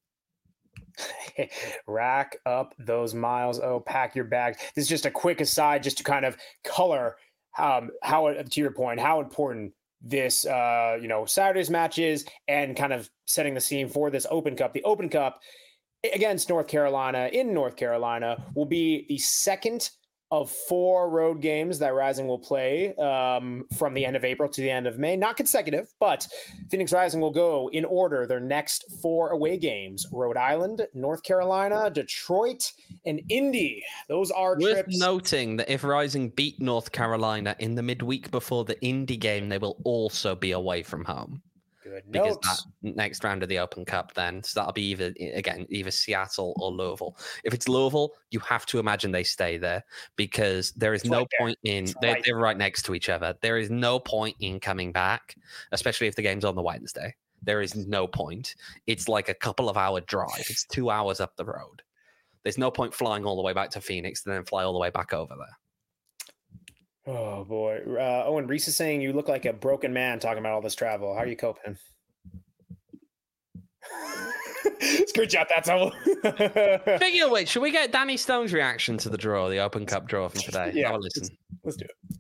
Rack up those miles. Oh, pack your bags. This is just a quick aside just to kind of color how, to your point, how important this, Saturday's match is and kind of setting the scene for this Open Cup. The Open Cup against North Carolina in North Carolina will be the second of 4 road games that Rising will play from the end of April to the end of May. Not consecutive, but Phoenix Rising will go in order their next 4 away games: Rhode Island, North Carolina, Detroit, and Indy. Those are worth trips. Noting that if Rising beat North Carolina in the midweek before the Indy game, they will also be away from home. Good because notes. that next round of the Open Cup, then so that'll be either Seattle or Louisville. If it's Louisville, you have to imagine they stay there because there is no point in they're right next to each other. There is no point in coming back, especially if the game's on the Wednesday. There is no point. It's like a couple of hour drive. It's 2 hours up the road. There's no point flying all the way back to Phoenix and then fly all the way back over there. Oh boy. Owen Reese is saying you look like a broken man talking about all this travel. How are you coping? Screenshot that towel. Speaking of which, should we get Danny Stone's reaction to the draw, the Open Cup draw from today? Yeah, Have a listen. Let's do it.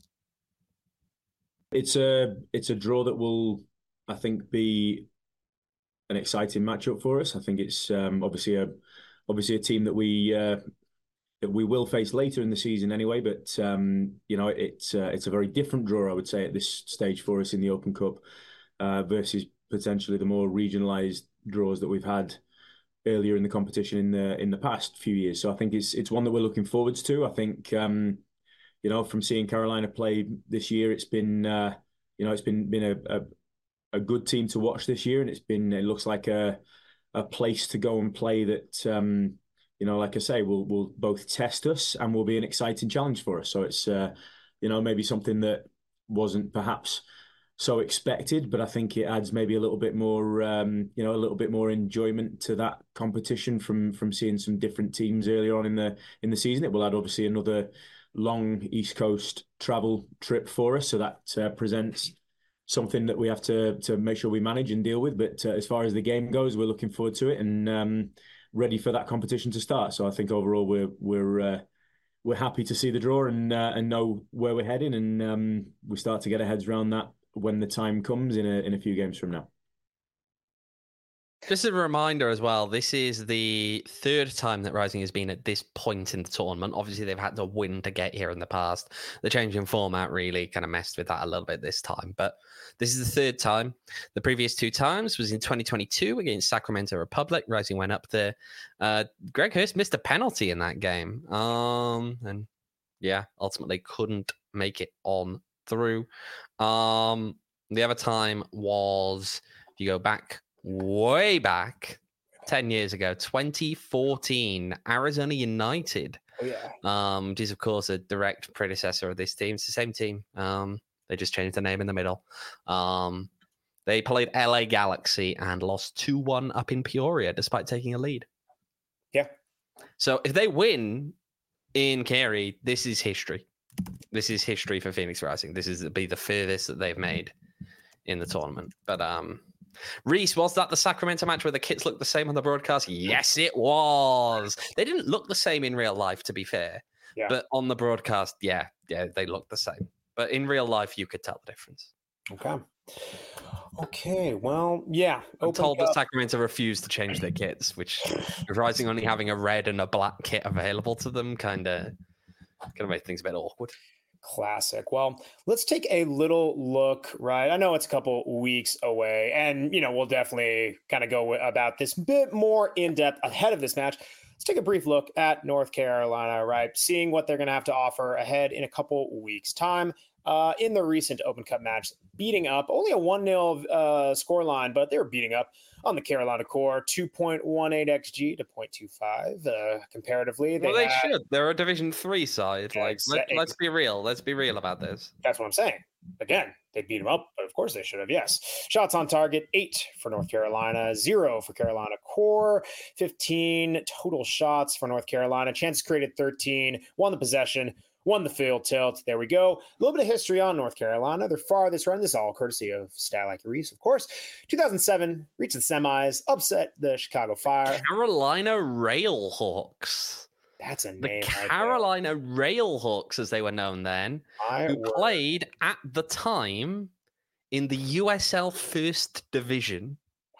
It's a draw that will, I think, be an exciting matchup for us. I think it's obviously a team that we will face later in the season anyway. But it's a very different draw, I would say, at this stage for us in the Open Cup versus potentially the more regionalised draws that we've had earlier in the competition in the past few years. So I think it's one that we're looking forwards to. I think from seeing Carolina play this year, it's been it's been a good team to watch this year, and it looks like a place to go and play that like I say, will both test us and will be an exciting challenge for us. So it's maybe something that wasn't perhaps so expected, but I think it adds maybe a little bit more enjoyment to that competition from seeing some different teams earlier on in the season. It will add obviously another long East Coast travel trip for us, so that presents something that we have to make sure we manage and deal with. But as far as the game goes, we're looking forward to it and ready for that competition to start. So I think overall we're happy to see the draw and know where we're heading, and we start to get our heads around that when the time comes in a few games from now. Just a reminder as well, this is the third time that Rising has been at this point in the tournament. Obviously, they've had to win to get here in the past. The change in format really kind of messed with that a little bit this time. But this is the third time. The previous two times was in 2022 against Sacramento Republic. Rising went up there. Greg Hurst missed a penalty in that game. And yeah, ultimately couldn't make it on through. The other time was, if you go back, way back 10 years ago, 2014, Arizona United. Oh yeah. Which is of course a direct predecessor of this team. It's the same team. They just changed the name in the middle. They played LA Galaxy and lost 2-1 up in Peoria despite taking a lead. Yeah. So if they win in Cary, this is history. This is history for Phoenix Rising. This is be the furthest that they've made in the tournament. But Reese, was that the Sacramento match where the kits looked the same on the broadcast? Yes, it was. They didn't look the same in real life, to be fair. Yeah. But on the broadcast, yeah, they looked the same. But in real life, you could tell the difference. Okay. Well, yeah. I'm told that Sacramento refused to change their kits, which Rising only having a red and a black kit available to them kind of make things a bit awkward. Classic. Well, let's take a little look, right? I know it's a couple weeks away, and we'll definitely kind of go about this bit more in depth ahead of this match. Let's take a brief look at North Carolina, right? Seeing what they're going to have to offer ahead in a couple weeks' time. In the recent Open Cup match, beating up only a 1-0 scoreline, but they were beating up on the Carolina core, 2.18 XG to 0.25 comparatively. They should. They're a Division 3 side. Let's be real. Let's be real about this. That's what I'm saying. Again, they beat them up, but of course they should have. Yes. Shots on target, 8 for North Carolina, 0 for Carolina core, 15 total shots for North Carolina. Chances created, 13. Won the possession. Won the field tilt. There we go. A little bit of history on North Carolina. Their farthest run, this is all courtesy of Stat Like Reese, of course. 2007, reached the semis, upset the Chicago Fire. Carolina Railhawks. That's a name. The Carolina Railhawks, as they were known then, who played at the time in the USL First Division.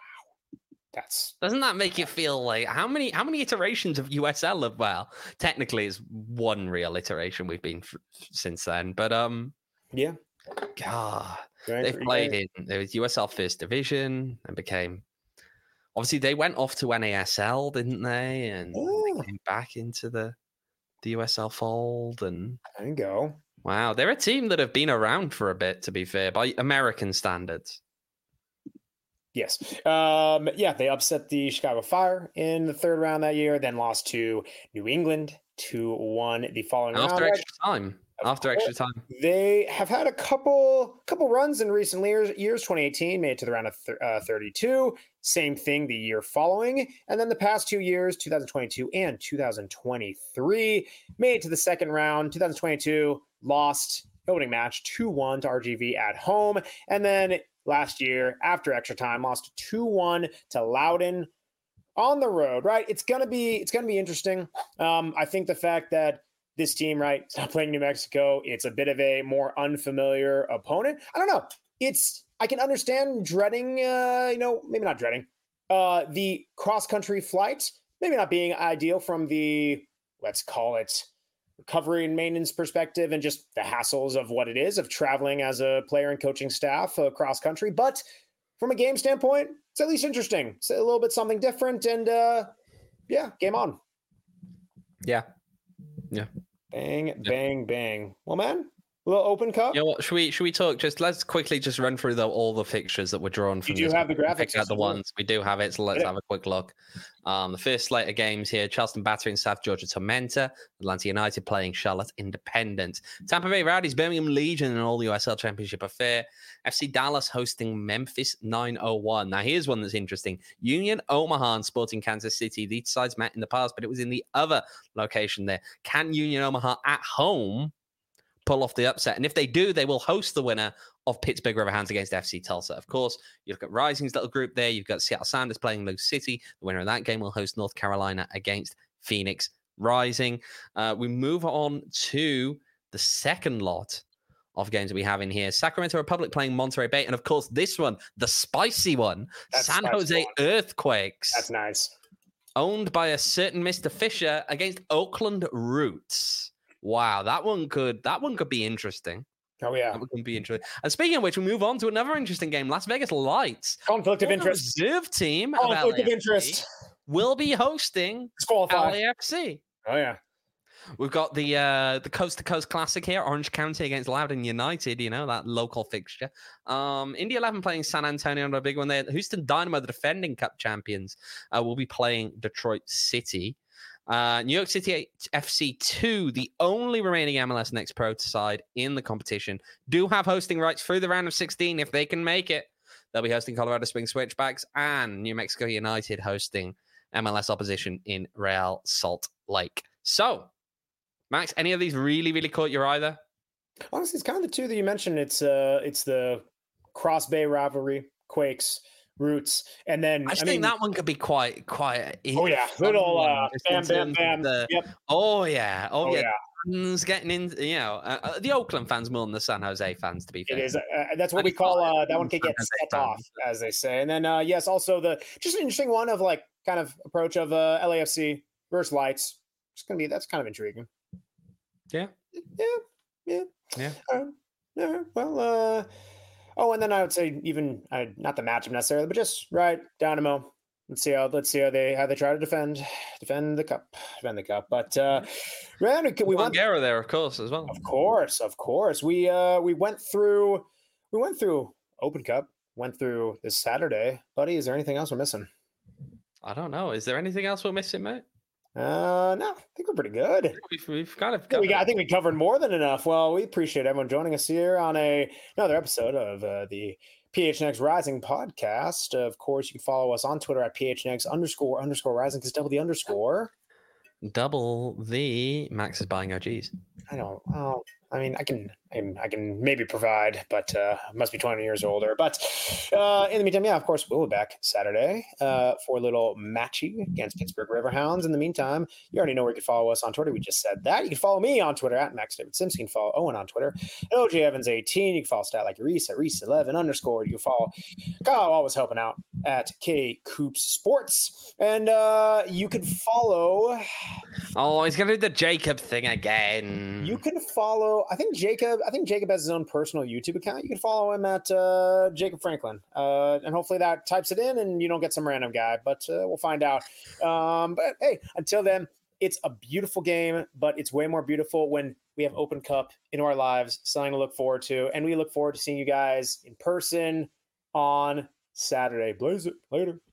Doesn't that make you feel like how many iterations of USL have, well, technically it's one real iteration we've been since then, but yeah, God, they've played in there was USL First Division and became, obviously they went off to NASL, didn't they? And they came back into the USL fold, and there you go. Wow, they're a team that have been around for a bit, to be fair, by American standards. Yes. They upset the Chicago Fire in the third round that year, then lost to New England 2-1 the following round. After extra time. They have had a couple runs in recent years. 2018 made it to the round of 32. Same thing the year following. And then the past 2 years, 2022 and 2023, made it to the second round. 2022 lost opening match 2-1 to RGV at home. And then last year, after extra time, lost 2-1 to Loudoun on the road, right? It's gonna be interesting. I think the fact that this team, right, is not playing New Mexico, it's a bit of a more unfamiliar opponent. I don't know. I can understand dreading, maybe not dreading, the cross-country flight, maybe not being ideal from the, let's call it, recovery and maintenance perspective and just the hassles of what it is of traveling as a player and coaching staff cross country. But from a game standpoint, it's at least interesting. It's a little bit something different. And game on. Yeah. Bang, bang, bang. Well, man, a little Open Cup. You know what? Should we talk? Let's quickly just run through all the fixtures that were drawn from. You do have the graphics. Pick out the ones we do have it. So let's have a quick look. The first slate of games here: Charleston Battery and South Georgia Tormenta, Atlanta United playing Charlotte Independent, Tampa Bay Rowdies, Birmingham Legion, and all USL Championship affair. FC Dallas hosting Memphis 901. Now here's one that's interesting: Union Omaha and Sporting Kansas City. These sides met in the past, but it was in the other location there. Can Union Omaha at home pull off the upset? And if they do, they will host the winner of Pittsburgh Riverhounds against FC Tulsa. Of course, you've got Rising's little group there. You've got Seattle Sounders playing Lou City. The winner of that game will host North Carolina against Phoenix Rising. We move on to the second lot of games that we have in here. Sacramento Republic playing Monterey Bay. And of course, this one, the spicy one, San Jose Earthquakes. That's nice. Owned by a certain Mr. Fisher against Oakland Roots. Wow, that one could be interesting. Oh yeah, that one could be interesting. And speaking of which, we move on to another interesting game: Las Vegas Lights. Conflict of interest. Reserve team. Conflict of interest. Will be hosting LAFC. Oh yeah. We've got the Coast to Coast Classic here: Orange County against Loudoun United. You know, that local fixture. Indy 11 playing San Antonio on a big one there. Houston Dynamo, the defending Cup champions, will be playing Detroit City. New York City FC 2, the only remaining MLS Next Pro side in the competition, do have hosting rights through the round of 16 if they can make it. They'll be hosting Colorado Springs Switchbacks and New Mexico United hosting MLS opposition in Real Salt Lake. So, Max, any of these really, really caught your eye there? Honestly, it's kind of the two that you mentioned. It's the Cross Bay rivalry, Quakes, Roots, and then I think that one could be quite. Oh yeah, little bam. Yep. Oh yeah. Fans getting in, the Oakland fans more than the San Jose fans. To be fair, it is. That's what we call that one can get set off, as they say. And then yes, also just an interesting one of like kind of approach of LAFC versus Lights. That's kind of intriguing. Yeah. Well. And then I would say even not the matchup necessarily, but just right Dynamo. Let's see how they try to defend the cup. But man, we went there, of course, as well. Of course. We went through Open Cup. Went through this Saturday, buddy. Is there anything else we're missing? I don't know. Is there anything else we're missing, mate? No, I think we're pretty good. We've kind of I think we covered more than enough. Well, we appreciate everyone joining us here on another episode of the PHNX Rising podcast. Of course, you can follow us on Twitter at PHNX__Rising, because double the underscore. Double the Max is buying OGs. I don't. Oh, I mean, I can maybe provide, but must be 20 years older. But in the meantime, yeah, of course, we'll be back Saturday for a little matchy against Pittsburgh Riverhounds. In the meantime, you already know where you can follow us on Twitter. We just said that. You can follow me on Twitter at Max David Sims. You can follow Owen on Twitter at OJ Evans 18. You can follow Stat Like Reese at Reese11_. You can follow Kyle, always helping out, at K Coops Sports. And you can follow. Oh, he's gonna do the Jacob thing again. You can follow. I think Jacob has his own personal YouTube account. You can follow him at Jacob Franklin, and hopefully that types it in, and you don't get some random guy. But we'll find out. But hey, until then, it's a beautiful game, but it's way more beautiful when we have Open Cup in our lives. Something to look forward to, and we look forward to seeing you guys in person on Saturday. Blaze it later.